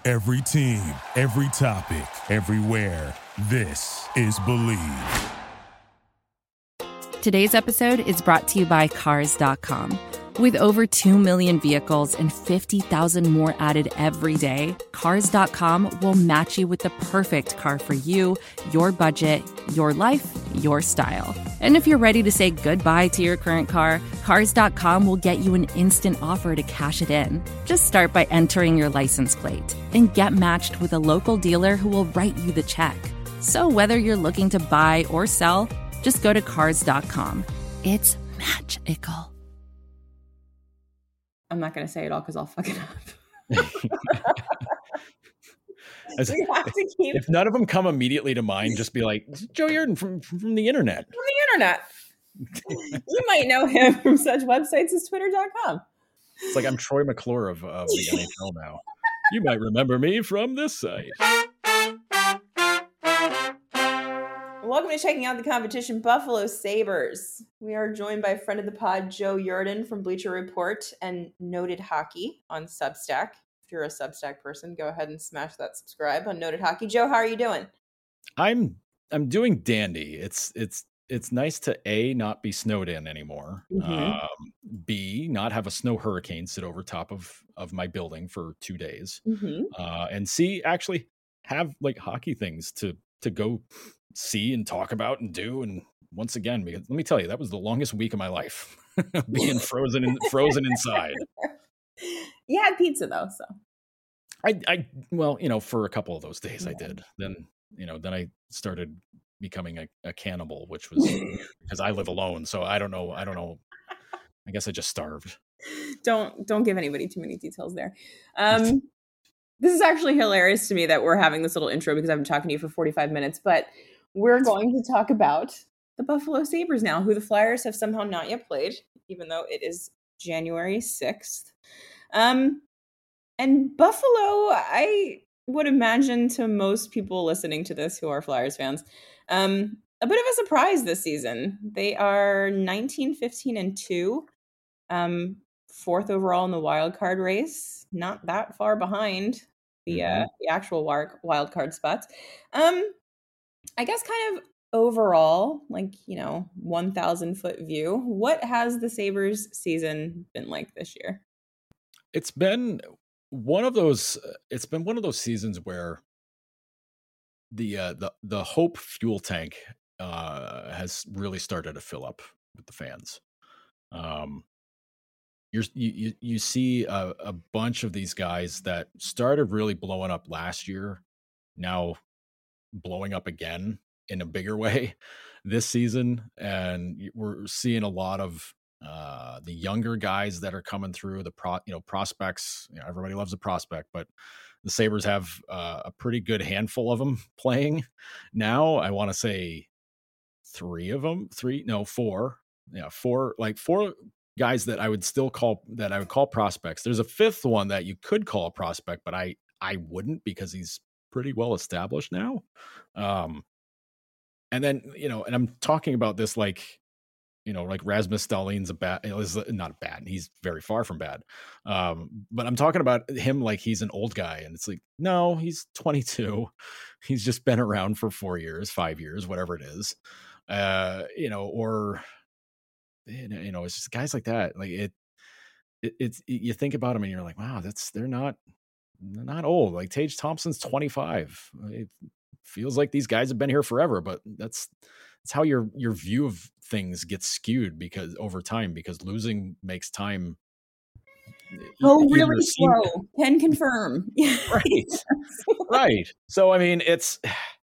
Every team, every topic, everywhere. This is Believe. Today's episode is brought to you by Cars.com. With over 2 million vehicles and 50,000 more added every day, Cars.com will match you with the perfect car for you, your budget, your life, your style. And if you're ready to say goodbye to your current car, Cars.com will get you an instant offer to cash it in. Just start by entering your license plate and get matched with a local dealer who will write you the check. So whether you're looking to buy or sell, just go to Cars.com. It's magical. I'm not going to say it all because I'll fuck it up. If none of them come immediately to mind, just be like, Joe Yerdon from the internet. From the internet. You might know him from such websites as Twitter.com. It's like I'm Troy McClure of the NHL now. You might remember me from this site. Welcome to Checking Out the Competition, Buffalo Sabres. We are joined by friend of the pod, Joe Yerdon from Bleacher Report and Noted Hockey on Substack. If you're a Substack person, go ahead and smash that subscribe on Noted Hockey. Joe, how are you doing? I'm doing dandy. It's nice to A, not be snowed in anymore. Mm-hmm. B, not have a snow hurricane sit over top of my building for 2 days. Mm-hmm. And C, actually have like hockey things to go see and talk about and do. And once again, because let me tell you, that was the longest week of my life, being frozen inside. You had pizza though, so I well, for a couple of those days I did. Then I started becoming a cannibal, which was because I live alone. So I don't know. I guess I just starved. Don't give anybody too many details there. This is actually hilarious to me that we're having this little intro because I've been talking to you for 45 minutes, but we're going to talk about the Buffalo Sabres now, who the Flyers have somehow not yet played, even though it is January 6th. And Buffalo, I would imagine to most people listening to this who are Flyers fans, a bit of a surprise this season. They are 19-15-2, fourth overall in the wild card race, not that far behind the actual wild card spots. I guess kind of overall, 1,000-foot view, what has the Sabres season been like this year? It's been one of those seasons where the hope fuel tank has really started to fill up with the fans. You see a bunch of these guys that started really blowing up last year, now blowing up again in a bigger way this season, and we're seeing a lot of the younger guys that are coming through the prospects. Everybody loves a prospect, but the Sabres have a pretty good handful of them playing now. I want to say four guys that I would call prospects. There's a fifth one that you could call a prospect, but I wouldn't, because he's pretty well established now. And then, and I'm talking about this like Rasmus Dahlin's not bad. He's very far from bad. But I'm talking about him like he's an old guy, and it's like, no, he's 22. He's just been around for 4 years, 5 years, whatever it is. It's just guys like that. Like it's you think about them and you're like, wow, they're not old. Like Tage Thompson's 25. It feels like these guys have been here forever, but that's how your view of things gets skewed because over time, because losing makes time go really slow. Can confirm. Right. So I mean, it's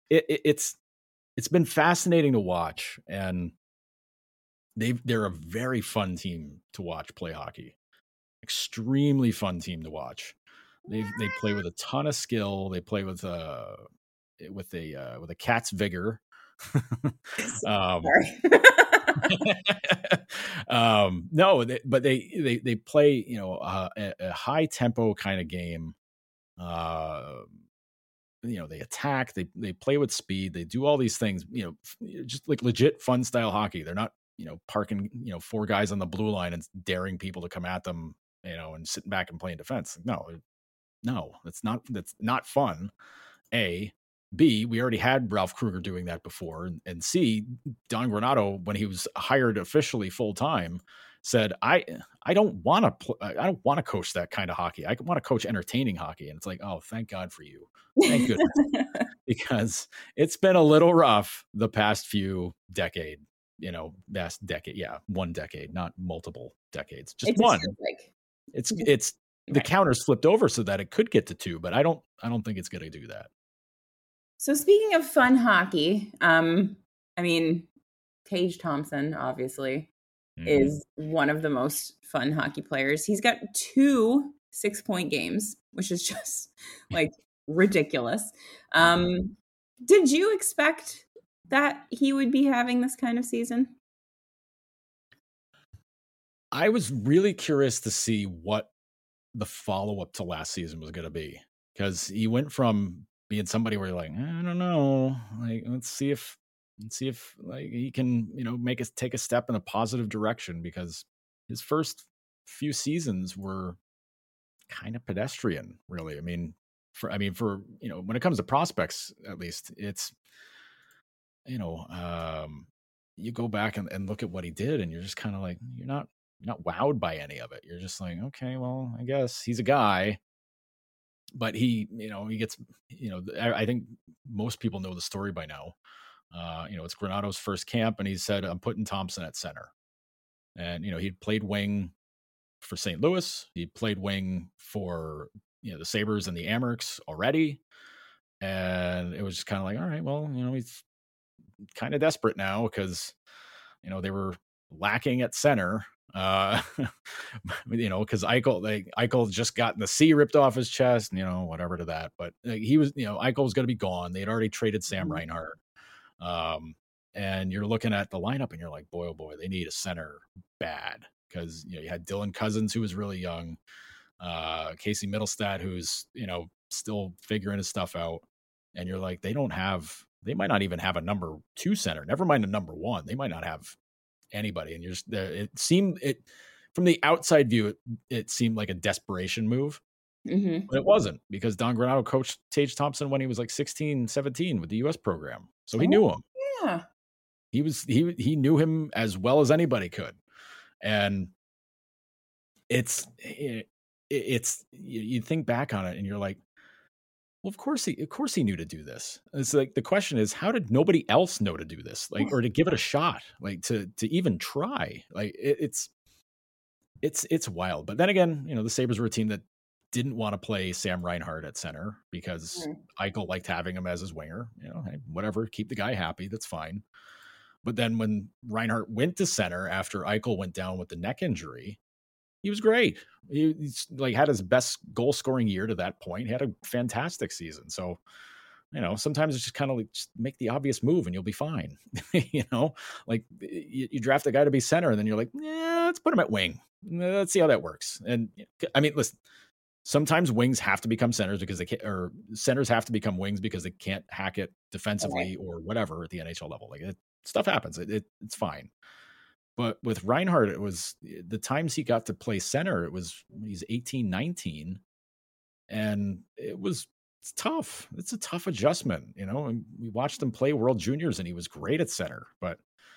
been fascinating to watch, and they're a very fun team to watch play hockey. Extremely fun team to watch. They play with a ton of skill. They play with a cat's vigor. But they play a high tempo kind of game. They attack. They play with speed. They do all these things. Just like legit fun style hockey. They're not parking 4 guys on the blue line and daring people to come at them. And sitting back and playing defense. No, No, that's not fun. A. B, we already had Ralph Kruger doing that before. And C, Don Granato, when he was hired officially full time, said, I don't want to coach that kind of hockey. I want to coach entertaining hockey. And it's like, oh, thank God for you. Thank goodness. Because it's been a little rough the past few decade, last decade. Yeah. 1 decade, not multiple decades, just one. It's the counters flipped over so that it could get to 2, but I don't think it's going to do that. So speaking of fun hockey, Tage Thompson, obviously, is one of the most fun hockey players. He's got 2 6-point games, which is just like ridiculous. Did you expect that he would be having this kind of season? I was really curious to see what the follow-up to last season was going to be, because he went from being somebody where you're like, I don't know, like, let's see if like he can, take a step in a positive direction, because his first few seasons were kind of pedestrian, really. For when it comes to prospects, at least, it's, you go back and look at what he did, and you're just kind of like, you're not wowed by any of it. You're just like, okay, well, I guess he's a guy. But he gets, I think most people know the story by now. It's Granato's first camp, and he said, I'm putting Thompson at center. And, he'd played wing for St. Louis. He played wing for, the Sabres and the Amerks already. And it was just kind of like, all right, well, he's kind of desperate now because, they were lacking at center. Because Eichel just gotten the C ripped off his chest, whatever to that. But he was, Eichel was going to be gone. They'd already traded Sam Reinhart. And you're looking at the lineup and you're like, boy, oh boy, they need a center bad. Because, you had Dylan Cousins, who was really young. Casey Middlestat, who's, still figuring his stuff out. And you're like, they might not even have a number 2 center. Never mind a number 1. They might not have anybody. And it seemed from the outside view, it seemed like a desperation move, but it wasn't, because Don Granato coached Tage Thompson when he was like 16, 17 with the US program. So he knew him. Yeah. He knew him as well as anybody could. And it's you think back on it and you're like, well, of course he knew to do this. It's like, the question is, how did nobody else know to do this? Like, or to give it a shot, like to even try. Like it's wild. But then again, the Sabres were a team that didn't want to play Sam Reinhart at center because Eichel liked having him as his winger. Hey, whatever, keep the guy happy. That's fine. But then when Reinhart went to center after Eichel went down with the neck injury, he was great. He's like had his best goal scoring year to that point. He had a fantastic season. So, sometimes it's just kind of like, just make the obvious move and you'll be fine. Like you draft a guy to be center and then you're like, let's put him at wing. Let's see how that works. And listen, sometimes wings have to become centers because they can't, or centers have to become wings because they can't hack it defensively or whatever at the NHL level. Like stuff happens. It's fine. But with Reinhart, it was the times he got to play center, it was when he's 18, 19. And it's tough. It's a tough adjustment, and we watched him play World Juniors and he was great at center. But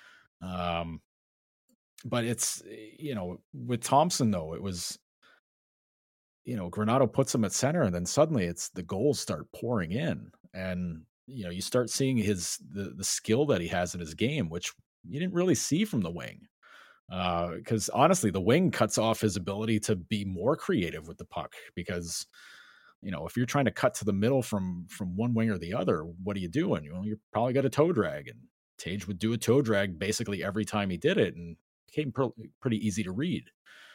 it's, with Thompson though, it was, Granato puts him at center and then suddenly it's the goals start pouring in, and, you start seeing the skill that he has in his game, which you didn't really see from the wing. Because honestly, the wing cuts off his ability to be more creative with the puck, because, if you're trying to cut to the middle from one wing or the other, what are you doing? You're probably got a toe drag, and Tage would do a toe drag basically every time he did it, and it became pretty easy to read.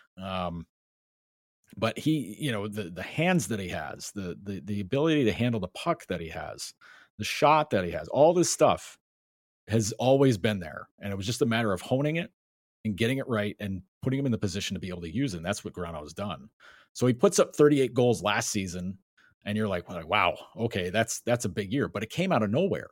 But he, the hands that he has, the ability to handle the puck that he has, the shot that he has, all this stuff has always been there. And it was just a matter of honing it and getting it right and putting him in the position to be able to use it. And that's what Granato has done. So he puts up 38 goals last season, and you're like, wow, okay, that's a big year, but it came out of nowhere.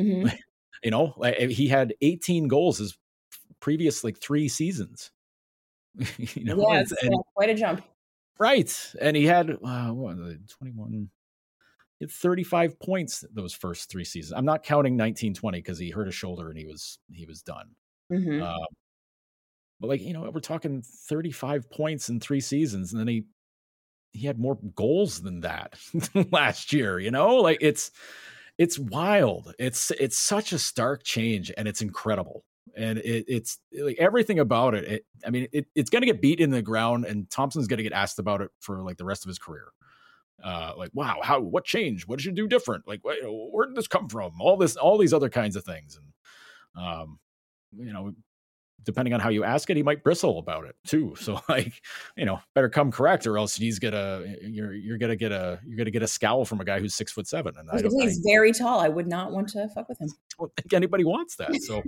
He had 18 goals his previous 3 seasons. It's quite a jump. Right. And he had 21, he had 35 points those first 3 seasons. I'm not counting 1920 because he hurt his shoulder and he was done. Mm-hmm. But like, we're talking 35 points in 3 seasons, and then he had more goals than that last year, like it's wild. It's such a stark change, and it's incredible. And it's like everything about it. It's going to get beat in the ground, and Thompson's going to get asked about it for like the rest of his career. Like, wow, what changed? What did you do different? Like, where did this come from? All these other kinds of things. And, depending on how you ask it, he might bristle about it too. So like, better come correct, or else you're gonna get a scowl from a guy who's 6'7". And he's very tall. I would not want to fuck with him. I don't think anybody wants that. So,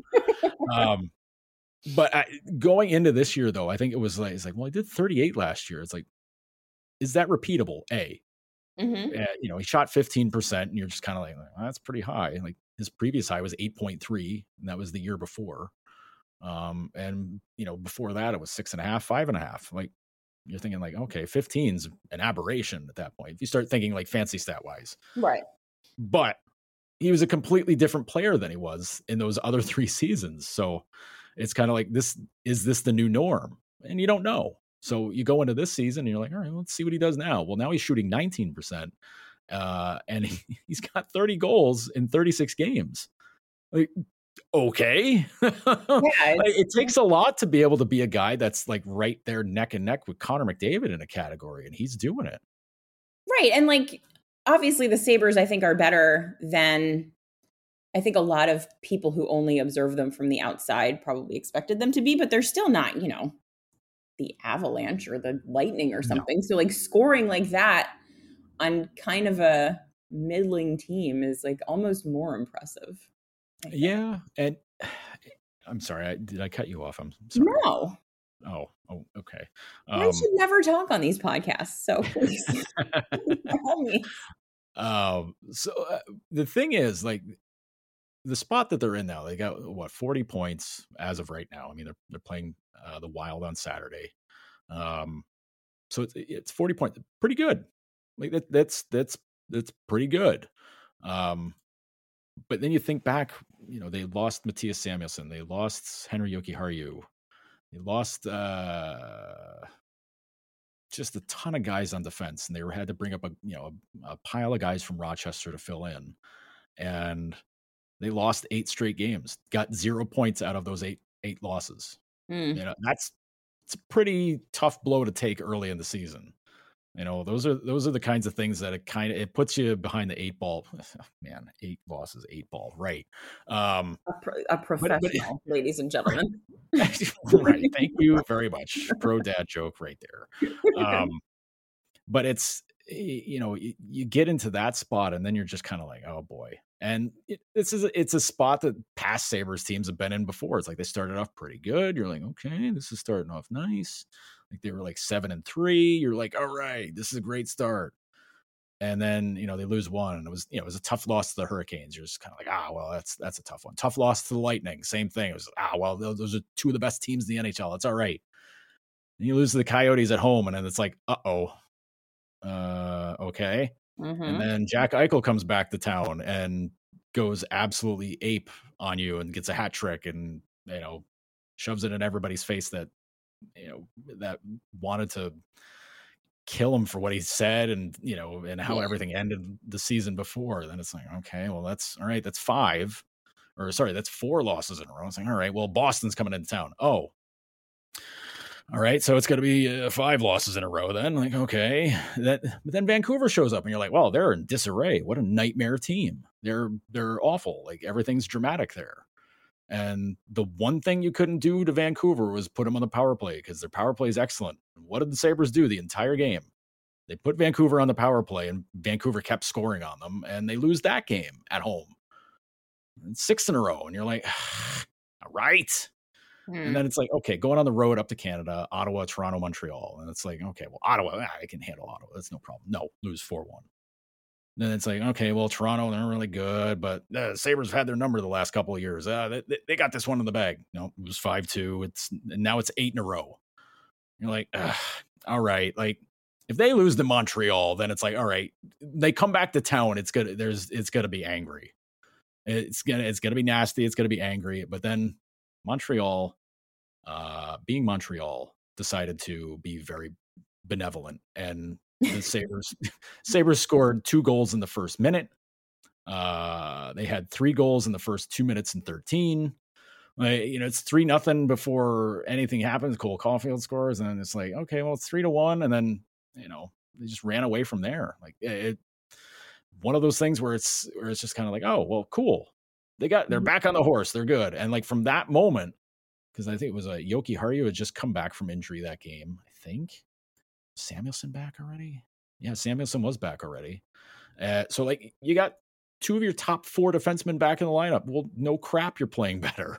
but going into this year though, I think it's like, well, I did 38 last year. It's like, is that repeatable? Mm-hmm. He shot 15%, and you're just kind of like, well, that's pretty high. Like his previous high was 8.3, and that was the year before. And before that it was 6.5, 5.5. Like you're thinking like, okay, 15's an aberration at that point. If you start thinking like fancy stat wise, right? But he was a completely different player than he was in those other 3 seasons. So it's kind of like, is this the new norm? And you don't know. So you go into this season and you're like, all right, let's see what he does now. Well, now he's shooting 19%, and he's got 30 goals in 36 games. Like, okay. It takes a lot to be able to be a guy that's like right there neck and neck with Connor McDavid in a category, and he's doing it. Right. And like, obviously the Sabres, I think, are better than I think a lot of people who only observe them from the outside probably expected them to be, but they're still not, the Avalanche or the Lightning or something. No. So like scoring like that on kind of a middling team is like almost more impressive. Yeah. And I'm sorry, did I cut you off? I'm sorry. No. Oh, okay. I should never talk on these podcasts, so please help me. So the thing is, like, the spot that they're in now, they got 40 points as of right now. I mean, they're playing the Wild on Saturday. So it's 40 points, pretty good. Like that's pretty good. But then you think back, they lost Matthias Samuelsson, they lost Henry Jokiharju, they lost just a ton of guys on defense, and they had to bring up a pile of guys from Rochester to fill in, and they lost 8 straight games, got 0 points out of those eight losses. It's a pretty tough blow to take early in the season. Those are the kinds of things that it puts you behind the 8 ball. Man, 8 losses, 8 ball, right? A professional, ladies and gentlemen. Right. Thank you very much. Pro dad joke right there. But it's, you get into that spot, and then you're just kind of like, oh boy. And it's a spot that past Sabres teams have been in before. It's like they started off pretty good. You're like, okay, this is starting off nice. Like they were like 7-3. You're like, all right, this is a great start. And then, they lose one, and it was a tough loss to the Hurricanes. You're just kind of like, well, that's a tough one. Tough loss to the Lightning. Same thing. It was, well, those are 2 of the best teams in the NHL. It's all right. And you lose to the Coyotes at home, and then it's like, okay. Mm-hmm. And then Jack Eichel comes back to town and goes absolutely ape on you and gets a hat trick, and, shoves it in everybody's face that wanted to kill him for what he said, and and how everything ended the season before. Then it's like, okay, well, that's all right. That's 4 losses in a row. It's like, all right, well, Boston's coming into town. Oh, all right, so it's going to be 5 losses in a row then. Like, okay, but then Vancouver shows up, and you're like, well, they're in disarray. What a nightmare team. They're awful. Like, everything's dramatic there. And the one thing you couldn't do to Vancouver was put them on the power play, because their power play is excellent. What did the Sabres do the entire game? They put Vancouver on the power play, and Vancouver kept scoring on them, and they lose that game at home. And 6 in a row, and you're like, all right. And then it's like, okay, going on the road up to Canada, Ottawa, Toronto, Montreal. And it's like, okay, well, Ottawa, I can handle Ottawa. That's no problem. No, lose 4-1. Then it's like, okay, well, Toronto, they're really good, but the Sabres have had their number the last couple of years. They got this one in the bag. No, it was 5-2. Now it's 8 in a row. You're like, all right. Like, if they lose to Montreal, then it's like, all right, they come back to town. It's gonna be angry. It's gonna be nasty. It's gonna be angry. But then Montreal, being Montreal, decided to be very benevolent, and the Sabres scored 2 goals in the first minute. They had 3 goals in the first 2 minutes and 13. It's 3-0 before anything happens. Cole Caulfield scores, and then it's like, okay, well, it's 3-1, and then they just ran away from there. Like one of those things where it's just kind of like, oh, well, cool. They're back on the horse. They're good. And like from that moment, because I think it was a Yoki Hardy who had just come back from injury that game. I think Samuelsson back already. Yeah, Samuelsson was back already. So like you got 2 of your top 4 defensemen back in the lineup. Well, no crap, you're playing better.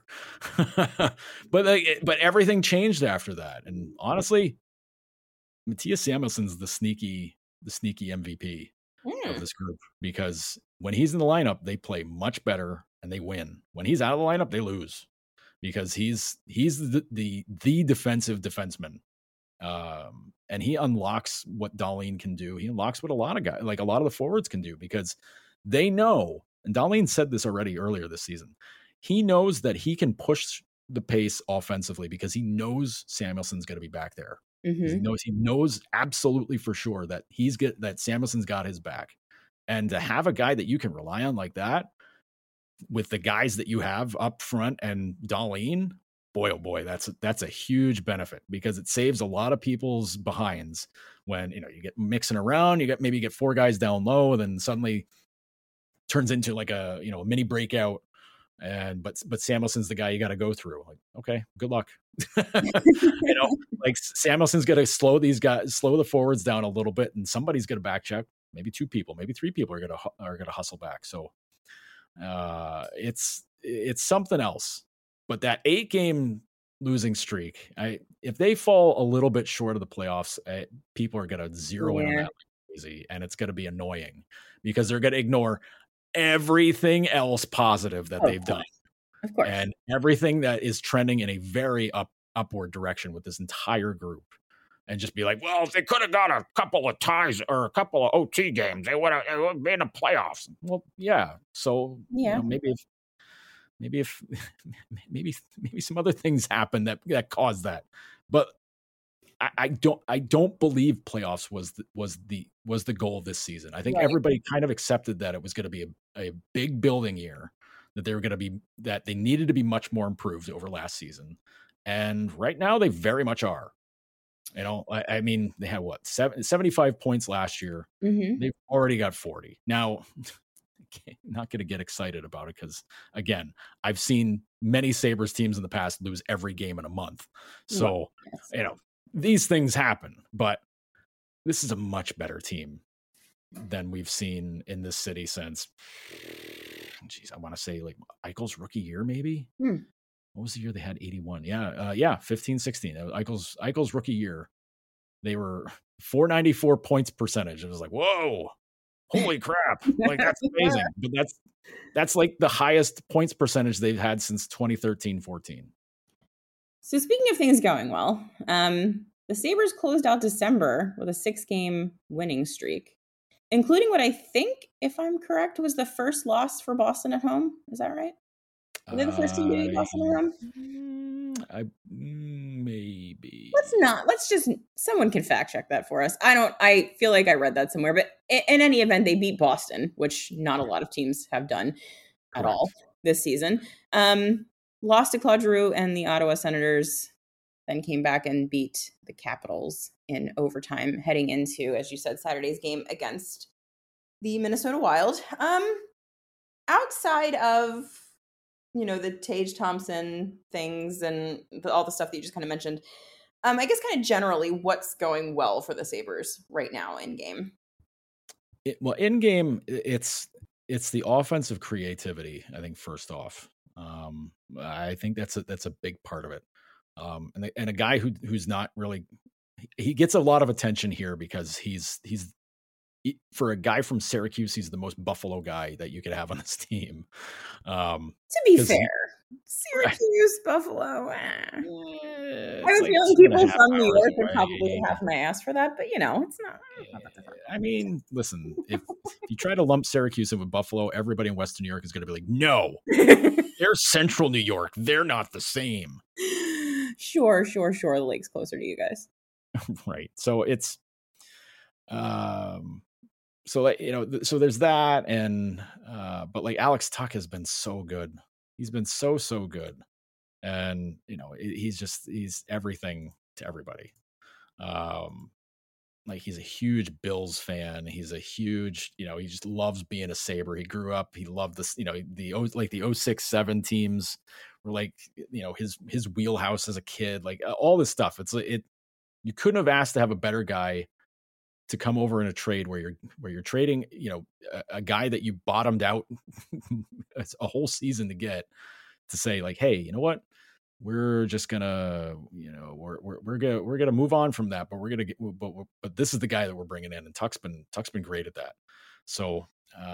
but everything changed after that. And honestly, Mattias Samuelsson's the sneaky MVP of this group, because when he's in the lineup, they play much better and they win. When he's out of the lineup, they lose, because he's the defensive defenseman. And he unlocks what Dahlin can do. He unlocks what a lot of the forwards can do, because they know, and Dahlin said this already earlier this season, he knows that he can push the pace offensively because he knows Samuelsson's going to be back there. Mm-hmm. He knows absolutely for sure that that Samuelsson's got his back. And to have a guy that you can rely on like that, with the guys that you have up front and Dahlin, boy, oh boy, that's a huge benefit, because it saves a lot of people's behinds when, you get mixing around, you get 4 guys down low, and then suddenly turns into like a mini breakout, but Samuelsson's the guy you got to go through. Like, okay, good luck. Like Samuelsson's going to slow the forwards down a little bit, and somebody's going to back check. Maybe 2 people, maybe 3 people are going to hustle back. So it's something else. But that 8-game losing streak, if they fall a little bit short of the playoffs, people are going to zero in on that like crazy, and it's going to be annoying, because they're going to ignore everything else positive that they've done, of course, and everything that is trending in a very upward direction with this entire group, and just be like, well, if they could have got a couple of ties or a couple of OT games, they would have been in the playoffs. Well, yeah. So maybe some other things happen that caused that, but I don't believe playoffs was the goal this season. I think everybody kind of accepted that it was going to be a big building year, that they needed to be much more improved over last season, and right now they very much are. I mean, they had 75 points last year. Mm-hmm. They've already got 40 now. I'm not going to get excited about it, because again, I've seen many Sabres teams in the past lose every game in a month. So, these things happen, but this is a much better team than we've seen in this city since, I want to say like Eichel's rookie year, maybe. What was the year they had 81? 15, 16. Eichel's rookie year. They were 494 points percentage. It was like, whoa, holy crap. Like, that's amazing. But that's like the highest points percentage they've had since 2013-14. So speaking of things going well, the Sabres closed out December with a 6-game winning streak, including what I think, if I'm correct, was the first loss for Boston at home. Is that right? Were they the first team to beat Boston at home? Maybe. Someone can fact check that for us. I feel like I read that somewhere, but in any event, they beat Boston, which not a lot of teams have done at all this season. Lost to Claude Giroux and the Ottawa Senators, then came back and beat the Capitals in overtime, heading into, as you said, Saturday's game against the Minnesota Wild. Outside of, the Tage Thompson things and all the stuff that you just kind of mentioned, I guess kind of generally, what's going well for the Sabres right now in game? In game, it's the offensive creativity, I think, first off. I think that's a big part of it. And a guy who's not really, he gets a lot of attention here because he's for a guy from Syracuse, he's the most Buffalo guy that you could have on this team. To be fair, Syracuse, Buffalo. I was Like feeling people 2.5 from New hours York would away. probably have my ass for that, but it's not that different. I mean, listen, if you try to lump Syracuse in with Buffalo, everybody in Western New York is going to be like, no, they're Central New York. They're not the same. Sure. The lake's closer to you guys. Right. So it's, so like, so there's that. And, but like Alex Tuck has been so good. He's been so good. And, he's everything to everybody. Like he's a huge Bills fan. He's a huge, he just loves being a Sabre. He grew up, he loved this, the 06-07 teams were like, his wheelhouse as a kid, like all this stuff. You couldn't have asked to have a better guy to come over in a trade where you're trading, a guy that you bottomed out a whole season to get, to say like, hey, you know what? We're just gonna, we're gonna move on from that, but we're gonna get, but this is the guy that we're bringing in, and Tuck's been great at that. So,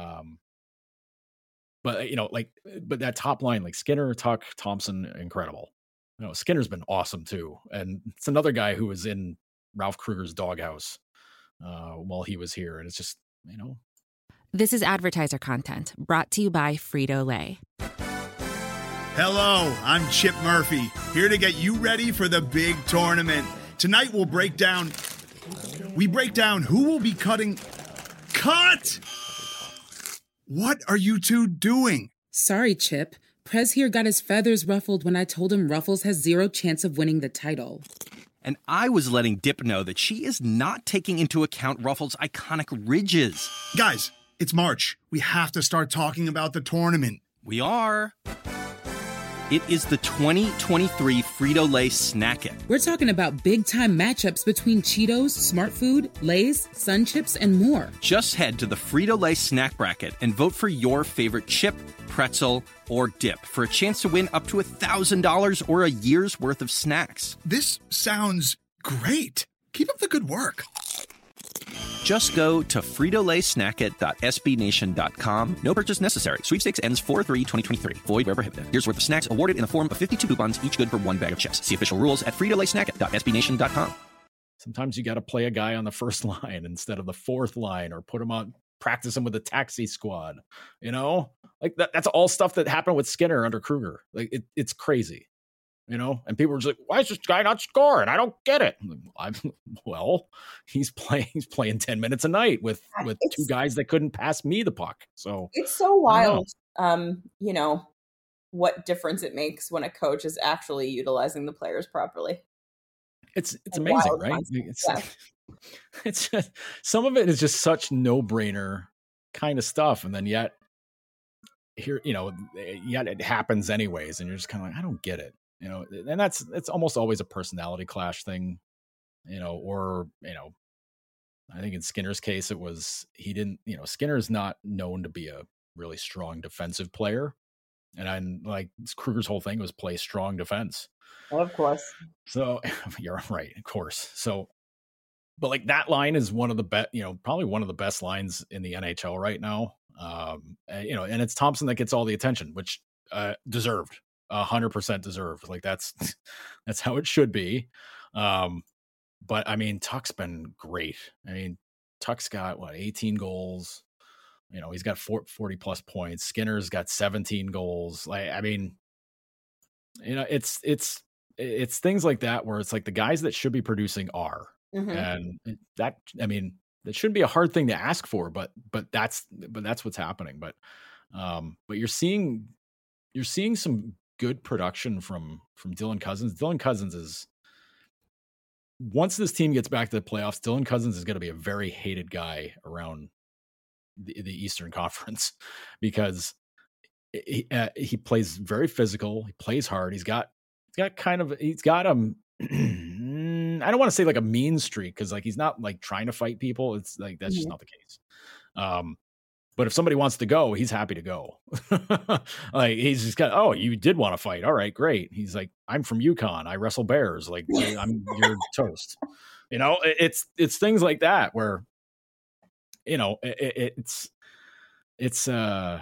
but but that top line, like Skinner, Tuck, Thompson, incredible. Skinner's been awesome too, and it's another guy who was in Ralph Kruger's doghouse while he was here, and it's just, This is advertiser content brought to you by Frito-Lay. Hello, I'm Chip Murphy, here to get you ready for the big tournament. Tonight we'll break down who will be cutting. Cut! What are you two doing? Sorry, Chip. Prez here got his feathers ruffled when I told him Ruffles has zero chance of winning the title. And I was letting Dip know that she is not taking into account Ruffles' iconic ridges. Guys, it's March. We have to start talking about the tournament. We are. It is the 2023 Frito-Lay Snack It. We're talking about big-time matchups between Cheetos, Smart Food, Lay's, Sun Chips, and more. Just head to the Frito-Lay Snack Bracket and vote for your favorite chip, pretzel, or dip for a chance to win up to $1,000 or a year's worth of snacks. This sounds great. Keep up the good work. Just go to fritolaysnackit.sbnation.com. No purchase necessary. Sweepstakes ends 4/3/2023. Void where prohibited. Here's worth of snacks awarded in the form of 52 coupons, each good for one bag of chips. See official rules at fritolaysnackit.sbnation.com. Sometimes you got to play a guy on the first line instead of the fourth line, or put him on, practice him with the taxi squad. Like that's all stuff that happened with Skinner under Kruger. Like it's crazy. And people were just like, why is this guy not scoring? I don't get it. Well, he's playing 10 minutes a night with two guys that couldn't pass me the puck. So it's so wild, what difference it makes when a coach is actually utilizing the players properly. It's amazing, right? It's just, some of it is just such no-brainer kind of stuff. And then yet here, yet it happens anyways. And you're just kind of like, I don't get it. And it's almost always a personality clash thing, or, I think in Skinner's case, it was, he didn't, Skinner's not known to be a really strong defensive player. And I'm like, Kruger's whole thing was play strong defense. Well, of course. So you're right. Of course. So, but like that line is one of the best, probably one of the best lines in the NHL right now. And it's Thompson that gets all the attention, which deserved. 100% deserved. Like that's how it should be. But I mean, Tuck's been great. I mean, Tuck's got 18 goals. He's got 40 plus points. Skinner's got 17 goals. Like, I mean, it's things like that where it's like the guys that should be producing are, and that, I mean, that shouldn't be a hard thing to ask for, but that's what's happening. But you're seeing some good production from Dylan Cozens. Dylan Cozens is, once this team gets back to the playoffs, Dylan Cozens is going to be a very hated guy around the Eastern Conference, because he plays very physical. He plays hard. He's got I don't want to say like a mean streak, because like he's not like trying to fight people. It's like that's just not the case. But if somebody wants to go, he's happy to go. Like he's just got, oh, you did want to fight. All right, great. He's like, I'm from Yukon. I wrestle bears. Like you're toast. It's things like that where, it's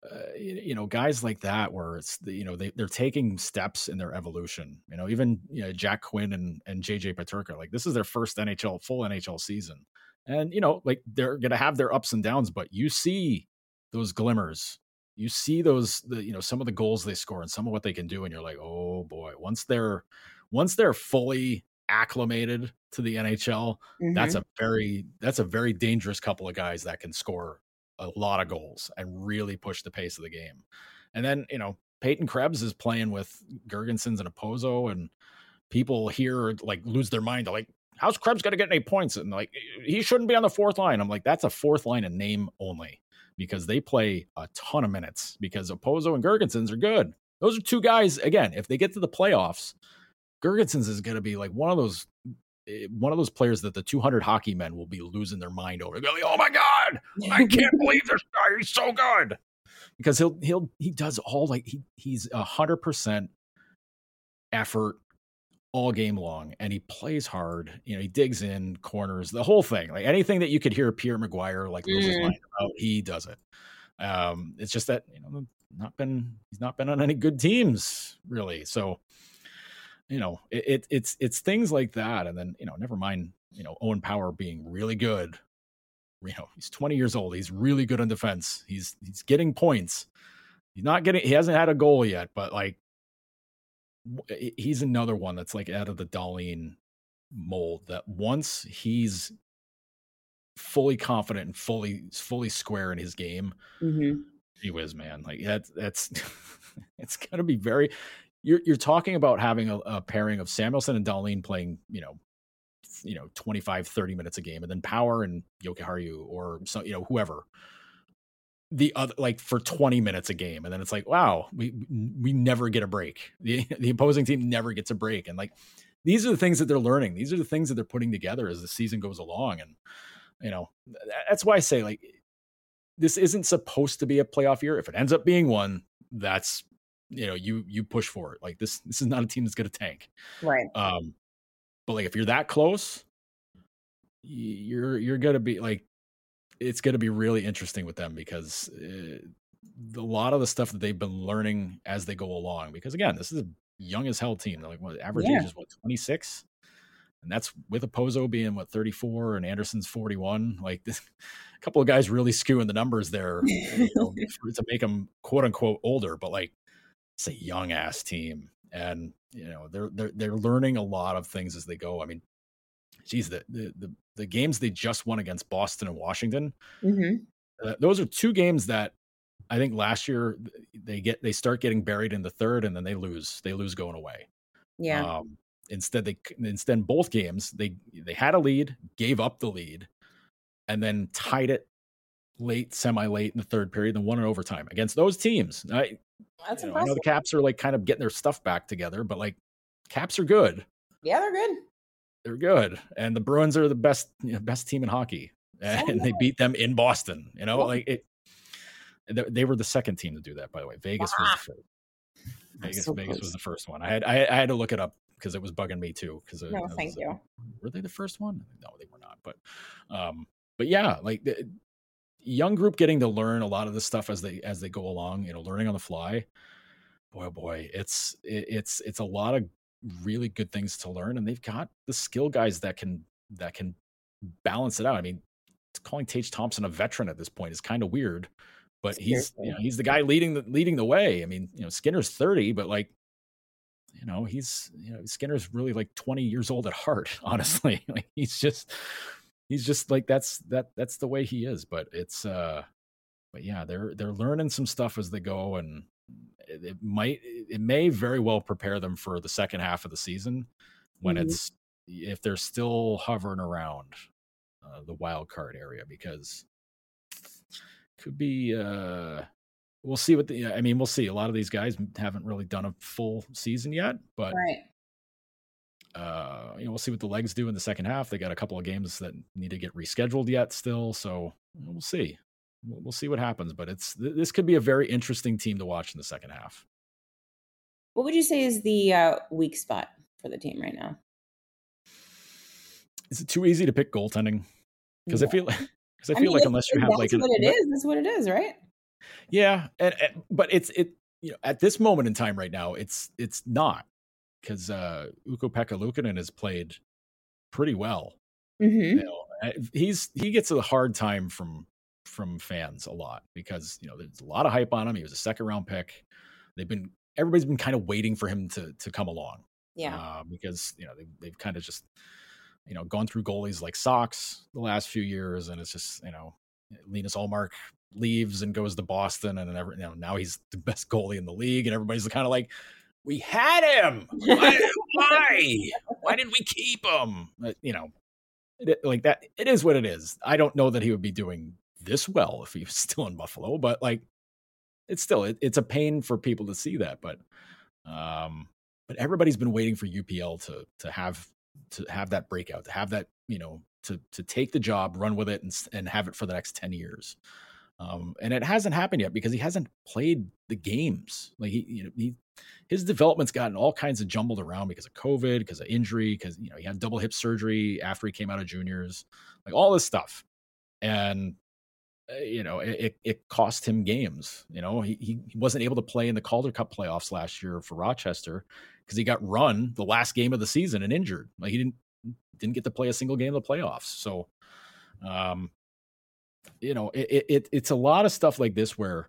guys like that where it's they're taking steps in their evolution. Even Jack Quinn and JJ Peterka, like this is their first full NHL season, and like they're gonna have their ups and downs, but you see those glimmers, you see those some of the goals they score and some of what they can do, and you're like, oh boy, once they're fully acclimated to the NHL, that's a very dangerous couple of guys that can score a lot of goals and really push the pace of the game. And then, Peyton Krebs is playing with Girgensons and Opozo, and people here like lose their mind. They're like, how's Krebs going to get any points? And like, he shouldn't be on the fourth line. I'm like, that's a fourth line in name only, because they play a ton of minutes, because Opozo and Girgensons are good. Those are two guys, again, if they get to the playoffs, Girgensons is going to be like one of those players that the 200 hockey men will be losing their mind over. They're like, oh my God, I can't believe this guy. He's so good. Because he does all, like, he's 100% effort all game long, and he plays hard. He digs in corners, the whole thing, like anything that you could hear Pierre Maguire like lose his mind about, he does it. It's just that, he's not been on any good teams really. So, it's things like that. And then, never mind, Owen Power being really good. He's 20 years old. He's really good on defense. He's getting points. He hasn't had a goal yet, but like, he's another one that's like out of the Dahlin mold, that once he's fully confident and fully square in his game, he whiz, man. Like that's it's going to be very. You're talking about having a pairing of Samuelsson and Dahlin playing, 25, 30 minutes a game, and then Power and Jokiharju or whoever the other, like for 20 minutes a game. And then it's like, wow, we never get a break. The opposing team never gets a break. And like, these are the things that they're learning. These are the things that they're putting together as the season goes along. And, that's why I say, like, this isn't supposed to be a playoff year. If it ends up being one, that's, you push for it. Like this is not a team that's going to tank. Right. But like, if you're that close, you're going to be like, it's going to be really interesting with them, because a lot of the stuff that they've been learning as they go along, because again, this is a young as hell team. They're like, what, average age is 26? And that's with Opozo being 34 and Anderson's 41. Like this, a couple of guys really skewing the numbers there to make them quote unquote older, but like, it's a young ass team, and they're learning a lot of things as they go. I mean, geez, the games they just won against Boston and Washington, those are two games that I think last year they start getting buried in the third, and then they lose going away. Yeah. Instead both games they had a lead, gave up the lead, and then tied it semi-late in the third period, and won in overtime against those teams. That's impressive. I know the Caps are like kind of getting their stuff back together, but like, Caps are good. Yeah, they're good. They're good. And the Bruins are the best team in hockey. And they beat them in Boston. They were the second team to do that, by the way. Vegas was the first. Vegas was the first one. I had to look it up because it was bugging me too. Thank you. Were they the first one? No, they were not. But yeah, like the young group getting to learn a lot of this stuff as they go along, learning on the fly. Boy, it's a lot of really good things to learn, and they've got the skill guys that can balance it out. I mean, calling Tage Thompson a veteran at this point is kind of weird, but he's the guy leading the way. I mean, Skinner's 30, but like, Skinner's really like 20 years old at heart, honestly. Like he's just like, that's the way he is. But it's but yeah, they're learning some stuff as they go, and it may very well prepare them for the second half of the season when if they're still hovering around the wild card area, because could be we'll see we'll see. A lot of these guys haven't really done a full season yet, but we'll see what the legs do in the second half. They got a couple of games that need to get rescheduled yet still, so we'll see. We'll see what happens, but this could be a very interesting team to watch in the second half. What would you say is the weak spot for the team right now? Is it too easy to pick goaltending? Because I feel like unless you have like that's what it is, right? Yeah, but at this moment in time right now, it's not, because Ukko-Pekka Luukkonen has played pretty well. Mm-hmm. He gets a hard time from fans a lot, because there's a lot of hype on him. He was a second round pick. Everybody's been kind of waiting for him to come along. Yeah. Because they've kind of just gone through goalies like Sox the last few years, and it's just Linus Ullmark leaves and goes to Boston, and now he's the best goalie in the league, and everybody's kind of like, we had him. Why did we keep him? Like that. It is what it is. I don't know that he would be doing this well if he was still in Buffalo, but it's a pain for people to see that. But everybody's been waiting for UPL to have that breakout, to have that, to take the job, run with it, and have it for the next 10 years. And it hasn't happened yet because he hasn't played the games. Like his development's gotten all kinds of jumbled around because of COVID, because of injury, because he had double hip surgery after he came out of juniors, like all this stuff. And it cost him games. He wasn't able to play in the Calder Cup playoffs last year for Rochester because he got run the last game of the season and injured. Like he didn't get to play a single game of the playoffs. So it's a lot of stuff like this where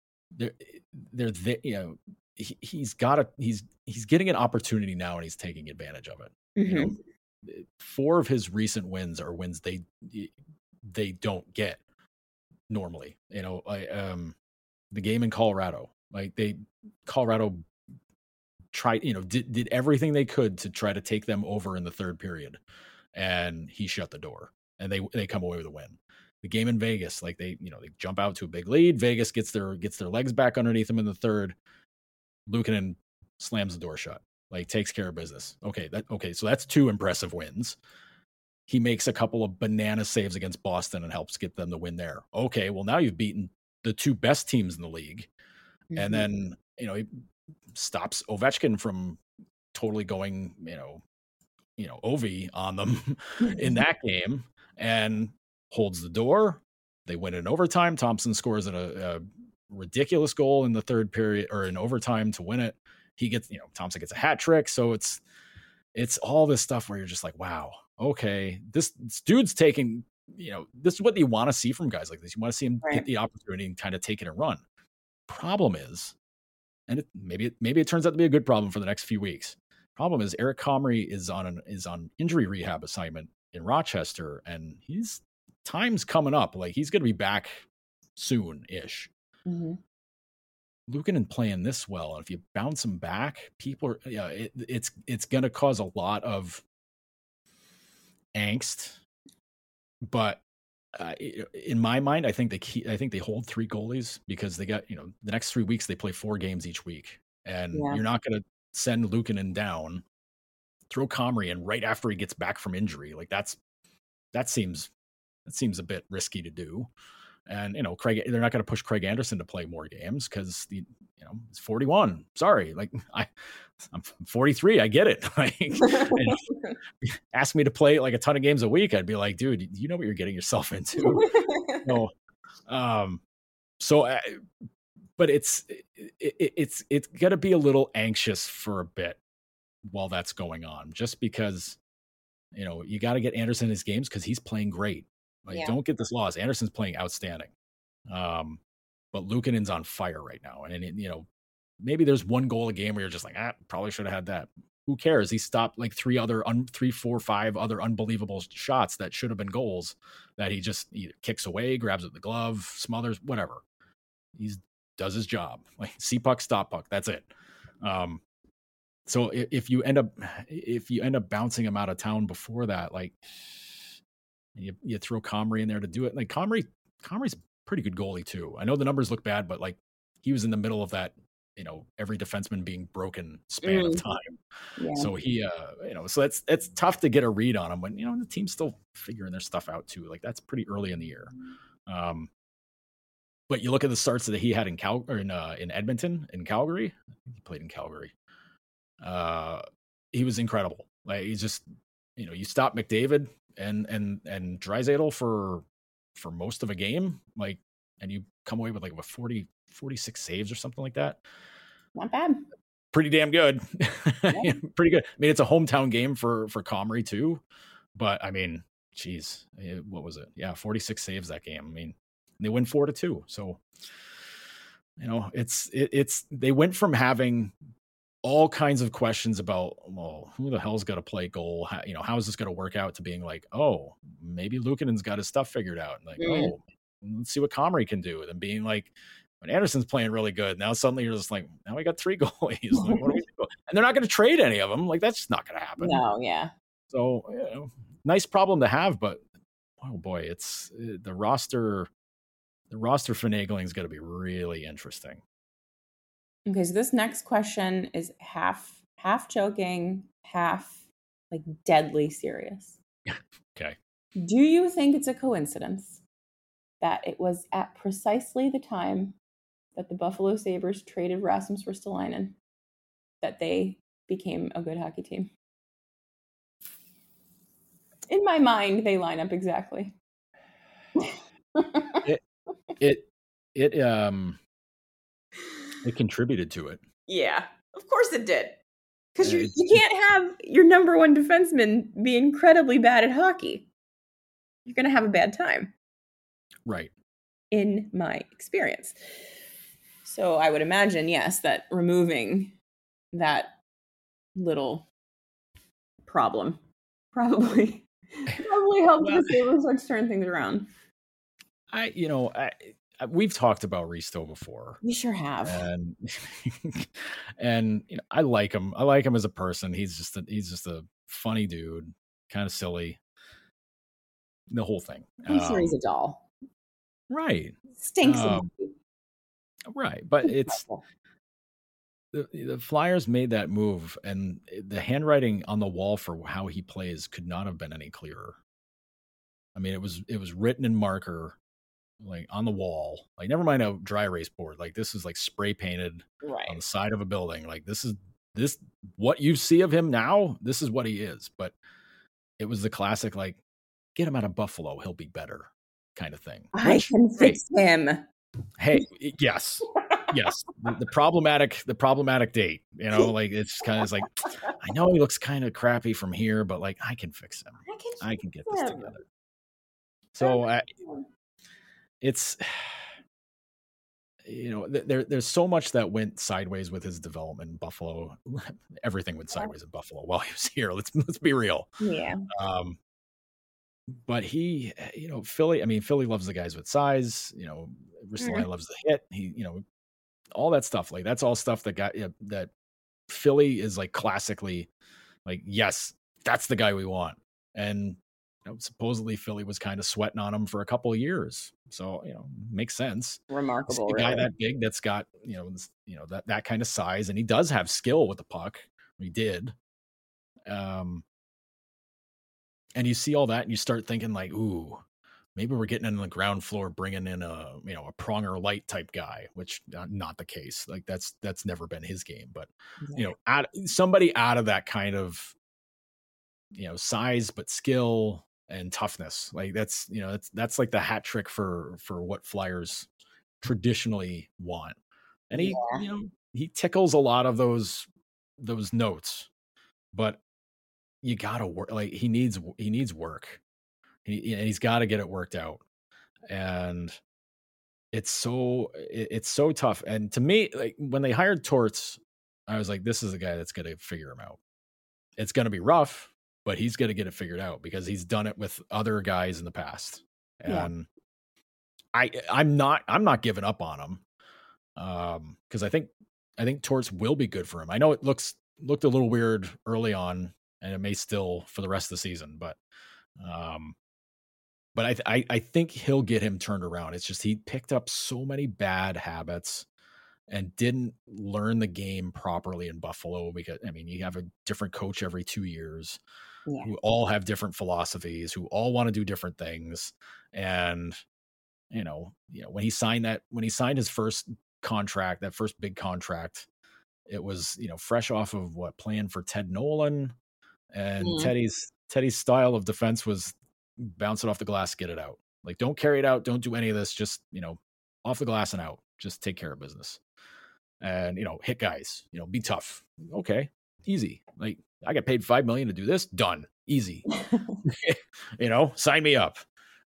he's getting an opportunity now, and he's taking advantage of it. Mm-hmm. 4 of his recent wins are wins they don't get normally. The game in Colorado, Colorado tried, did everything they could to try to take them over in the third period, and he shut the door, and they come away with a win. The game in Vegas, they jump out to a big lead. Vegas gets their legs back underneath them in the third. Luukkonen slams the door shut, takes care of business. Okay, so that's 2 impressive wins. He makes a couple of banana saves against Boston and helps get them the win there. Okay, well, now you've beaten the 2 best teams in the league. Mm-hmm. And then, he stops Ovechkin from totally going, Ovi on them in that game, and holds the door. They win in overtime. Thompson scores a ridiculous goal in the third period, or in overtime, to win it. He gets, Thompson gets a hat trick. So it's all this stuff where you're just like, wow, okay, this dude's taking, this is what you want to see from guys like this. You want to see him get the opportunity and kind of take it and run. Problem is, and maybe it turns out to be a good problem for the next few weeks. Problem is, Eric Comrie is on injury rehab assignment in Rochester, and time's coming up. He's going to be back soon-ish. Mm-hmm. Luukkonen playing this well, and if you bounce him back, people are, it's going to cause a lot of angst. But in my mind, I think they hold 3 goalies because they got, the next 3 weeks they play 4 games each week, and you're not going to send Luukkonen down, throw Comrie in right after he gets back from injury. That seems a bit risky to do. And, they're not going to push Craig Anderson to play more games because it's 41. Sorry. I'm 43. I get it. Ask me to play a ton of games a week. I'd be like, dude, you know what you're getting yourself into. No. But it's going to be a little anxious for a bit while that's going on, just because, you got to get Anderson his games because he's playing great. Don't get this lost. Anderson's playing outstanding. But Luukkonen's on fire right now. And, maybe there's 1 goal a game where you're just like, probably should have had that. Who cares? He stopped 3, 4, 5 other unbelievable shots that should have been goals that he just either kicks away, grabs with the glove, smothers, whatever. He does his job. See puck, stop puck. That's it. So if you end up bouncing him out of town before that, you throw Comrie in there to do it. Comrie's a pretty good goalie too. I know the numbers look bad, but he was in the middle of that, every defenseman being broken span of time. Yeah. So he, so it's tough to get a read on him when, the team's still figuring their stuff out too. That's pretty early in the year. But you look at the starts that he had in Edmonton, in Calgary. He played in Calgary. He was incredible. He's just, you stop McDavid and Draisaitl for most of a game. and you come away with like 46 saves or something like that. Not bad. Pretty damn good. Yeah. Pretty good. I mean, it's a hometown game for Comrie too, but I mean, geez, what was it? Yeah, 46 saves that game. I mean, they win 4-2. So, it's they went from having all kinds of questions about, well, who the hell's got to play goal? How is this going to work out, to being like, oh, maybe Luukkonen's got his stuff figured out. Like, oh, let's see what Comrie can do. And being like, when Anderson's playing really good, now suddenly you're just like, now we got 3 goalies. Like, what do we do? And they're not going to trade any of them. Like, that's just not going to happen. No, yeah. So, nice problem to have, but oh boy, it's the roster finagling is going to be really interesting. Okay, so this next question is half joking, half like deadly serious. Okay. Do you think it's a coincidence that it was at precisely the time that the Buffalo Sabres traded Rasmus Ristolainen that they became a good hockey team? In my mind, they line up exactly. It contributed to it. Yeah, of course it did. Because you can't have your number one defenseman be incredibly bad at hockey. You're going to have a bad time. Right. In my experience. So I would imagine, yes, that removing that little problem probably helped the Sabres start to turn things around. We've talked about Risto before. We sure have. And I like him. I like him as a person. He's just a funny dude, kind of silly. The whole thing. I'm sure he's a doll. Right. Stinks. Right. But it's the Flyers made that move, and the handwriting on the wall for how he plays could not have been any clearer. I mean, it was written in marker, like on the wall, like never mind a dry erase board. Like this is like spray painted on the side of a building. Like this what you see of him now. This is what he is. But it was the classic, like, get him out of Buffalo, he'll be better kind of thing. I can fix him. Hey, yes. The problematic date, like it's kind of like, I know he looks kind of crappy from here, but like I can fix him. I can get this together. So it's, there's so much that went sideways with his development in Buffalo. Everything went sideways in Buffalo while he was here. Let's be real. Yeah. But he, Philly loves the guys with size. Ristolainen loves the hit. He, all that stuff. Like that's all stuff that Philly is like classically like, yes, that's the guy we want. And supposedly Philly was kind of sweating on him for a couple of years. So, makes sense. Remarkable. A guy that big that's got, that kind of size, and he does have skill with the puck. He did. And you see all that and you start thinking like, ooh, maybe we're getting in the ground floor, bringing in a Pronger light type guy, which not the case. Like that's never been his game, but somebody out of that kind of, size, but skill and toughness. Like that's like the hat trick for what Flyers traditionally want. And he tickles a lot of those notes, but you gotta work. Like he needs work. He's got to get it worked out, and it's so tough. And to me, like when they hired Torts, I was like, this is a guy that's going to figure him out. It's going to be rough, but he's going to get it figured out because he's done it with other guys in the past. And I'm not giving up on him because I think Torts will be good for him. I know it looked a little weird early on, and it may still for the rest of the season, but I think he'll get him turned around. It's just he picked up so many bad habits and didn't learn the game properly in Buffalo because, you have a different coach every 2 years who all have different philosophies, who all want to do different things. And, when he signed his first contract, that first big contract, it was, fresh off of playing for Ted Nolan, and Teddy's style of defense was bounce it off the glass, get it out. Like, don't carry it out. Don't do any of this. Just, off the glass and out. Just take care of business. And, hit guys, be tough. Okay, easy. Like, I got paid $5 million to do this. Done. Easy. Sign me up.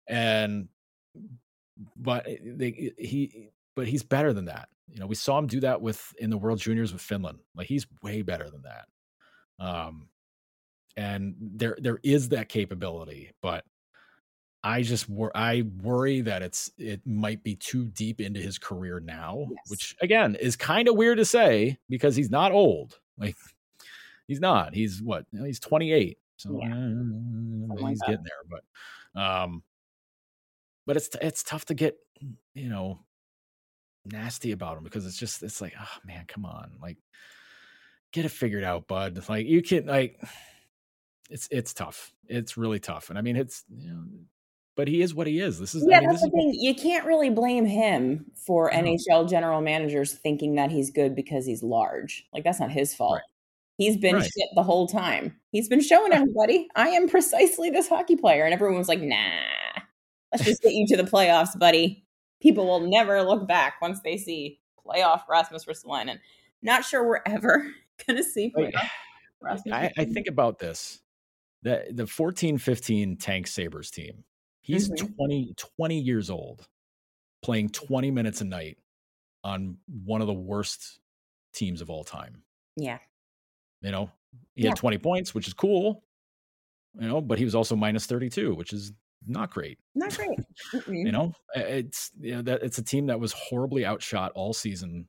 But he's better than that. We saw him do that in the World Juniors with Finland. Like, he's way better than that. And there is that capability, but I worry that it might be too deep into his career now, which again is kind of weird to say because he's not old. Like, he's not. He's what? He's 28. So he's getting there. But it's tough to get nasty about him because it's like, oh man, come on, like, get it figured out, bud. Like, you can, like, it's tough. It's really tough, and I mean, it's but he is what he is. That's the thing. You can't really blame him for NHL general managers thinking that he's good because he's large. Like, that's not his fault. Right. He's been shit the whole time. He's been showing everybody, I am precisely this hockey player. And everyone was like, nah, let's just get you to the playoffs, buddy. People will never look back once they see playoff Rasmus Ristolainen. Not sure we're ever going to see playoff Rasmus Ristolainen. I think about this. The 14-15 Tank Sabres team. He's 20 years old, playing 20 minutes a night on one of the worst teams of all time. Yeah. He had 20 points, which is cool, but he was also minus 32, which is not great. Not great. It's it's a team that was horribly outshot all season.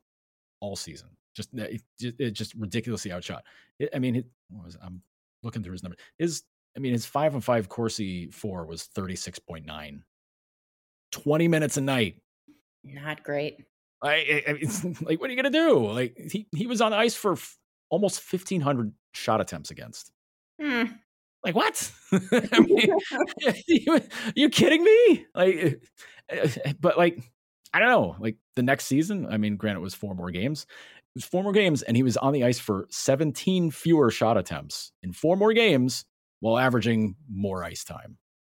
Just ridiculously outshot. I'm looking through his number. His 5-on-5 Corsi 4 was 36.9. 20 minutes a night. Not great. It's like, what are you gonna do? Like, he was on the ice for almost 1,500 shot attempts against. Like, what? You kidding me? Like, but like, I don't know. Like, the next season, granted, it was 4 more games. It was 4 more games, and he was on the ice for 17 fewer shot attempts in 4 more games while averaging more ice time.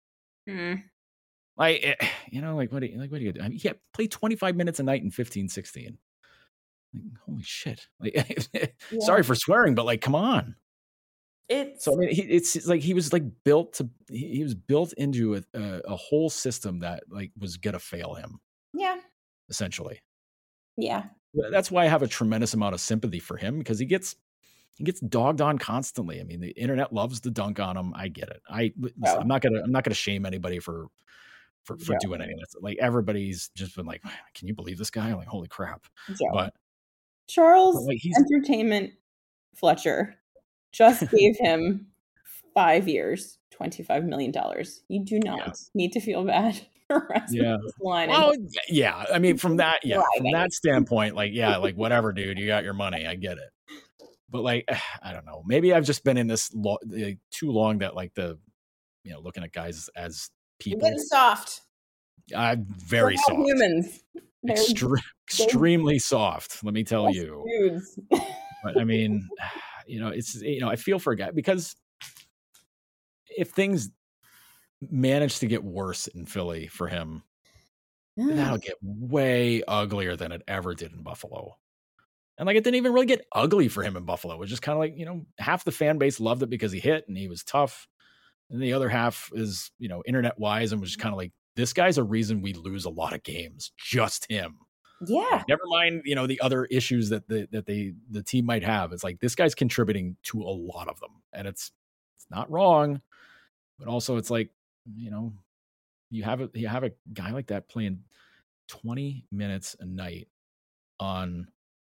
Like, what do you do? He played 25 minutes a night in 15-16. Like, holy shit! Like, sorry for swearing, but like, come on. It's like he was like built into a whole system that like was gonna fail him. Yeah. Essentially. Yeah. That's why I have a tremendous amount of sympathy for him because he gets dogged on constantly. The internet loves to dunk on him. I get it. I'm not gonna shame anybody for doing anything. Like, everybody's just been like, can you believe this guy? I'm like, holy crap. Yeah. But Charles Entertainment Fletcher just gave him 5 years, $25 million. You do not need to feel bad for Rasmus Ristolainen. Well, yeah. From that standpoint, like, like, whatever, dude, you got your money. I get it. But like, I don't know. Maybe I've just been in this too long that like looking at guys as people. You're getting soft. I'm very soft. Humans. Extremely soft. Let me tell you. Dudes. But it's I feel for a guy because if things manage to get worse in Philly for him, that'll get way uglier than it ever did in Buffalo. And like, it didn't even really get ugly for him in Buffalo. It was just kind of like, half the fan base loved it because he hit and he was tough. And the other half is, internet wise and was just kind of like, this guy's a reason we lose a lot of games. Just him. Yeah. Like, never mind, the other issues that the team might have. It's like, this guy's contributing to a lot of them. And it's not wrong. But also it's like, you have a guy like that playing 20 minutes a night on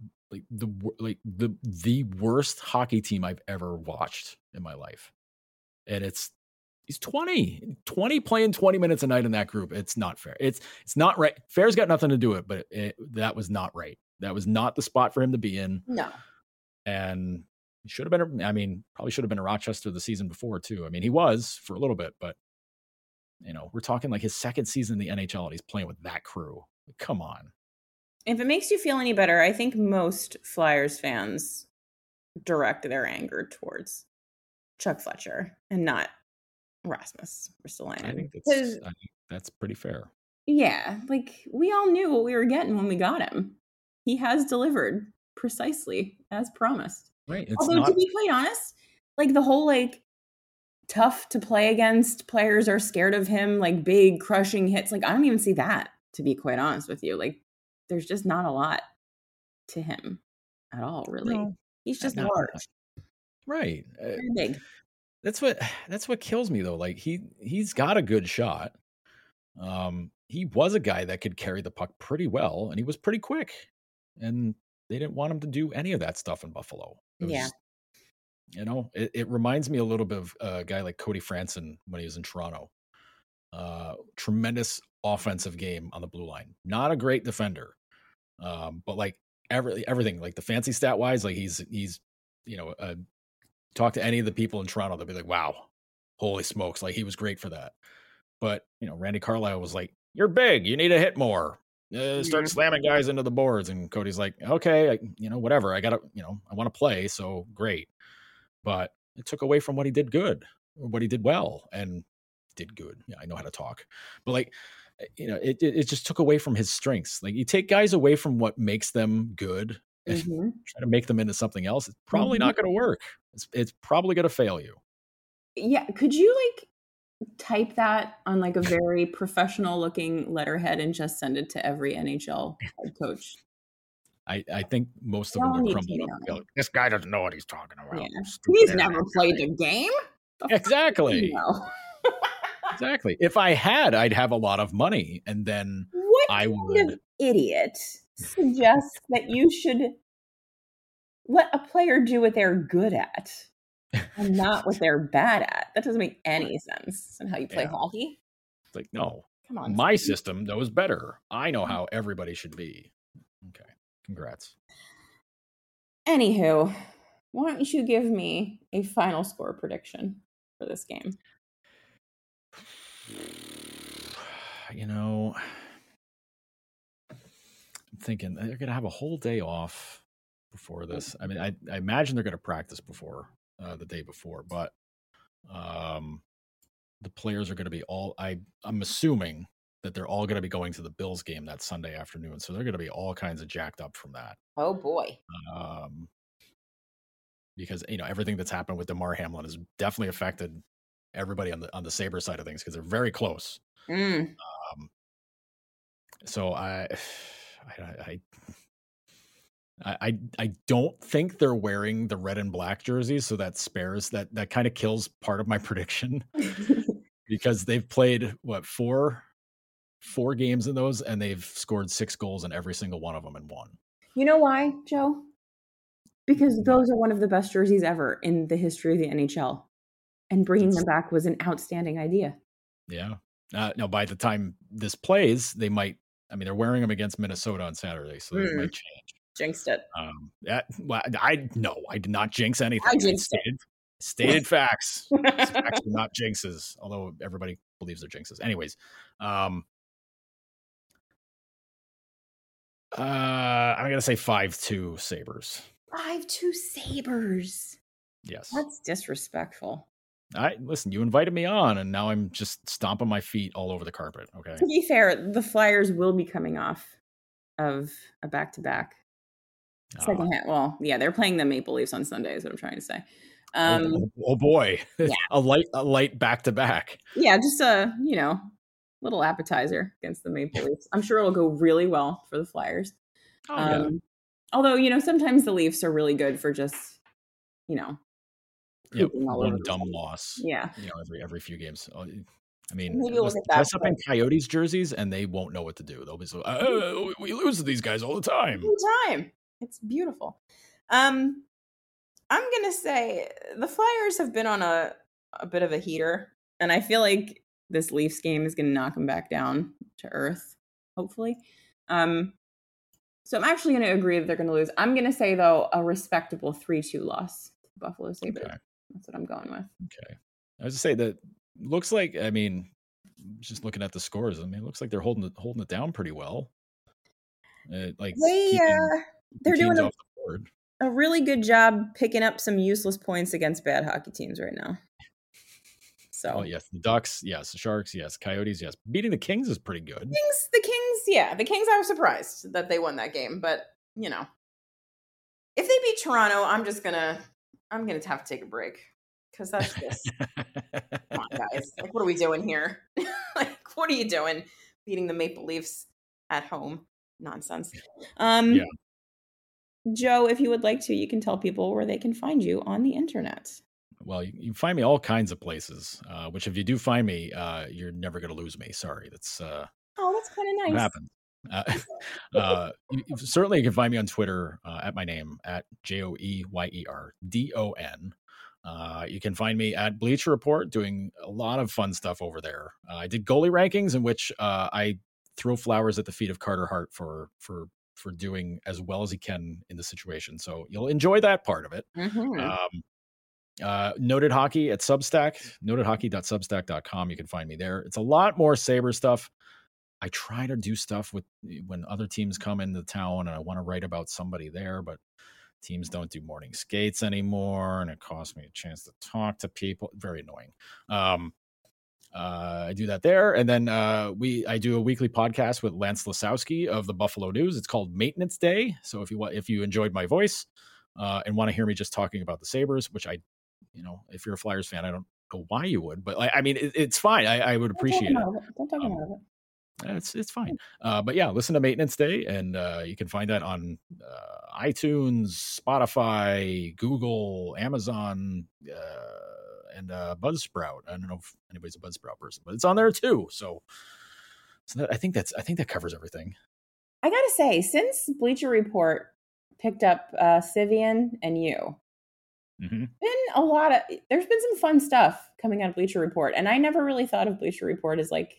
the worst hockey team I've ever watched in my life. And he's 20 playing 20 minutes a night in that group. It's not fair. It's not right. Fair's got nothing to do with it, but that was not right. That was not the spot for him to be in. No. And he should have been, probably should have been in Rochester the season before too. He was for a little bit, but we're talking like his second season in the NHL and he's playing with that crew. Like, come on. If it makes you feel any better, I think most Flyers fans direct their anger towards Chuck Fletcher and not Rasmus Ristolainen. I think that's pretty fair. Yeah, like we all knew what we were getting when we got him. He has delivered precisely as promised. Right. It's Although, not to be quite honest, like the whole like tough to play against, players are scared of him, like big crushing hits. Like I don't even see that, to be quite honest with you. Like there's just not a lot to him at all, really. No, He's just not- large, right. very big. That's what kills me though. Like he's got a good shot. He was a guy that could carry the puck pretty well, and he was pretty quick. And they didn't want him to do any of that stuff in Buffalo. It was, Yeah. You know, it reminds me a little bit of a guy like Cody Franson when he was in Toronto. Tremendous offensive game on the blue line. Not a great defender, but like everything, like the fancy stat wise, like he's you know, talk to any of the people in Toronto, they'll be like, wow, holy smokes, like he was great for that. But you know, Randy Carlyle was like, "You're big, you need to hit more. Start slamming guys into the boards." And Cody's like, "Okay, whatever. I gotta, I want to play, so great." But it took away from what he did good, or what he did well, and did good. Yeah, I know how to talk, but like, it just took away from his strengths. Like you take guys away from what makes them good and try to make them into something else. It's probably not going to work. It's probably going to fail you. Yeah, could you like type that on like a very professional looking letterhead and just send it to every NHL head coach? I think most of them would crumble up and go, "This guy doesn't know what he's talking about." Yeah. He's never played a game. Exactly. Exactly. If I had, I'd have a lot of money, and then what I kind would. of idiot suggests that you should let a player do what they're good at and not what they're bad at? That doesn't make any sense. And how you play hockey? It's like, no. Come on. My system knows better. I know how everybody should be. Okay. Congrats. Anywho, why don't you give me a final score prediction for this game? I'm thinking they're going to have a whole day off before this. I mean, I imagine they're going to practice before the day before, but the players are going to be I'm assuming that they're all going to be going to the Bills game that Sunday afternoon. So they're going to be all kinds of jacked up from that. Oh boy. Because, everything that's happened with DeMar Hamlin has definitely affected everybody on the Sabres side of things, because they're very close. So I don't think they're wearing the red and black jerseys, so that spares that kind of kills part of my prediction because they've played four games in those, and they've scored 6 goals in every single one of them and won. You know why, Joe? Because those are one of the best jerseys ever in the history of the NHL, and bringing them back was an outstanding idea. Yeah. Now, by the time this plays, they might. I mean, they're wearing them against Minnesota on Saturday, so they might change. Jinxed it. I did not jinx anything. I jinxed stated facts. Facts are not jinxes, although everybody believes they're jinxes. Anyways, I'm gonna say 5-2 Sabres. 5-2 Sabres. Yes, that's disrespectful. Listen, you invited me on, and now I'm just stomping my feet all over the carpet. Okay. To be fair, the Flyers will be coming off of a back-to-back. Second half. Well, yeah, they're playing the Maple Leafs on Sunday, is what I'm trying to say. Oh boy. Yeah. a light back-to-back. Yeah, just a, little appetizer against the Maple Leafs. I'm sure it'll go really well for the Flyers. Yeah. Although, sometimes the Leafs are really good for just, one dumb loss. Yeah. Every few games. I mean, dress up in Coyotes jerseys, and they won't know what to do. They'll be so, we lose to these guys all the time. It's beautiful. I'm going to say the Flyers have been on a bit of a heater, and I feel like this Leafs game is going to knock them back down to earth, hopefully. So I'm actually going to agree that they're going to lose. I'm going to say, though, a respectable 3-2 loss to Buffalo Sabres. Okay. That's what I'm going with. Okay. I was to say that looks like, just looking at the scores, it looks like they're holding it down pretty well. They're doing a really good job picking up some useless points against bad hockey teams right now. So yes, the Ducks, yes, the Sharks, yes, Coyotes, yes. Beating the Kings is pretty good. The Kings, I was surprised that they won that game, but you know, if they beat Toronto, I'm gonna have to take a break because that's just come on, guys. Like, what are we doing here? Like, what are you doing? Beating the Maple Leafs at home? Nonsense. Yeah. Joe, if you would like to, you can tell people where they can find you on the internet. Well, you can find me all kinds of places, which if you do find me, you're never going to lose me. Sorry. That's that's kind of nice. What happens. Certainly you can find me on Twitter at my name, at JoeyerDon. You can find me at Bleacher Report doing a lot of fun stuff over there. I did goalie rankings in which I throw flowers at the feet of Carter Hart for doing as well as he can in the situation. So you'll enjoy that part of it. Mm-hmm. Noted Hockey at Substack, notedhockey.substack.com. You can find me there. It's a lot more Sabre stuff. I try to do stuff with when other teams come into town and I want to write about somebody there, but teams don't do morning skates anymore, and it costs me a chance to talk to people. Very annoying. I do that there, and then I do a weekly podcast with Lance Lasowski of the Buffalo News. It's called Maintenance Day. So if you enjoyed my voice and want to hear me just talking about the Sabres, which if you're a Flyers fan, I don't know why you would, but I mean, it's fine. I would appreciate it. Don't talk about it. It's fine. But yeah, listen to Maintenance Day, and you can find that on iTunes, Spotify, Google, Amazon, and Buzzsprout. I don't know if anybody's a Buzzsprout person, but it's on there too. So I think that covers everything. I gotta say, since Bleacher Report picked up Sivian and you, there's been some fun stuff coming out of Bleacher Report, and I never really thought of Bleacher Report as like,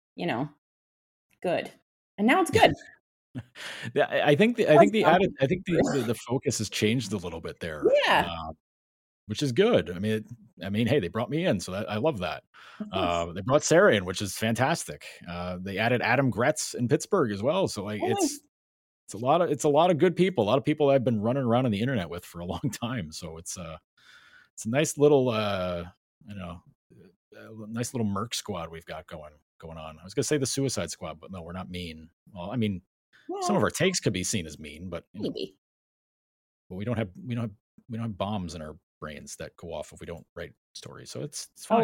good, and now it's good. I think the focus has changed a little bit there. Yeah. Which is good. I mean, hey, they brought me in, so I love that. They brought Sarah in, which is fantastic. They added Adam Gretz in Pittsburgh as well. So it's a lot of good people. A lot of people I've been running around on the internet with for a long time. So it's a nice little nice little Merc squad we've got going on. I was gonna say the Suicide Squad, but no, we're not mean. Well, I mean, some of our takes could be seen as mean, but maybe. But we don't have bombs in our brains that go off if we don't write stories. So it's fine.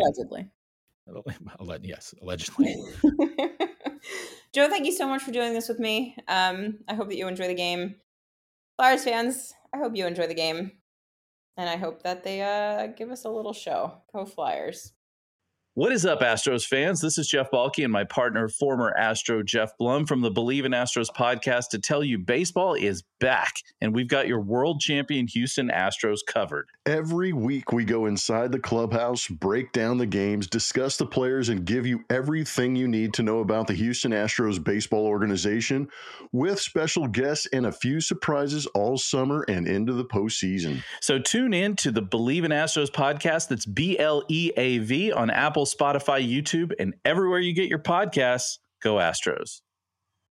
Yes, allegedly. Joe, thank you so much for doing this with me. I hope that you enjoy the game. Flyers fans, I hope you enjoy the game. And I hope that they give us a little show. Go Flyers. What is up, Astros fans? This is Jeff Balke and my partner, former Astro Jeff Blum from the Believe in Astros podcast to tell you baseball is back, and we've got your world champion Houston Astros covered. Every week we go inside the clubhouse, break down the games, discuss the players, and give you everything you need to know about the Houston Astros baseball organization with special guests and a few surprises all summer and into the postseason. So tune in to the Believe in Astros podcast. That's BLEAV on Apple, Spotify, YouTube, and everywhere you get your podcasts. Go Astros.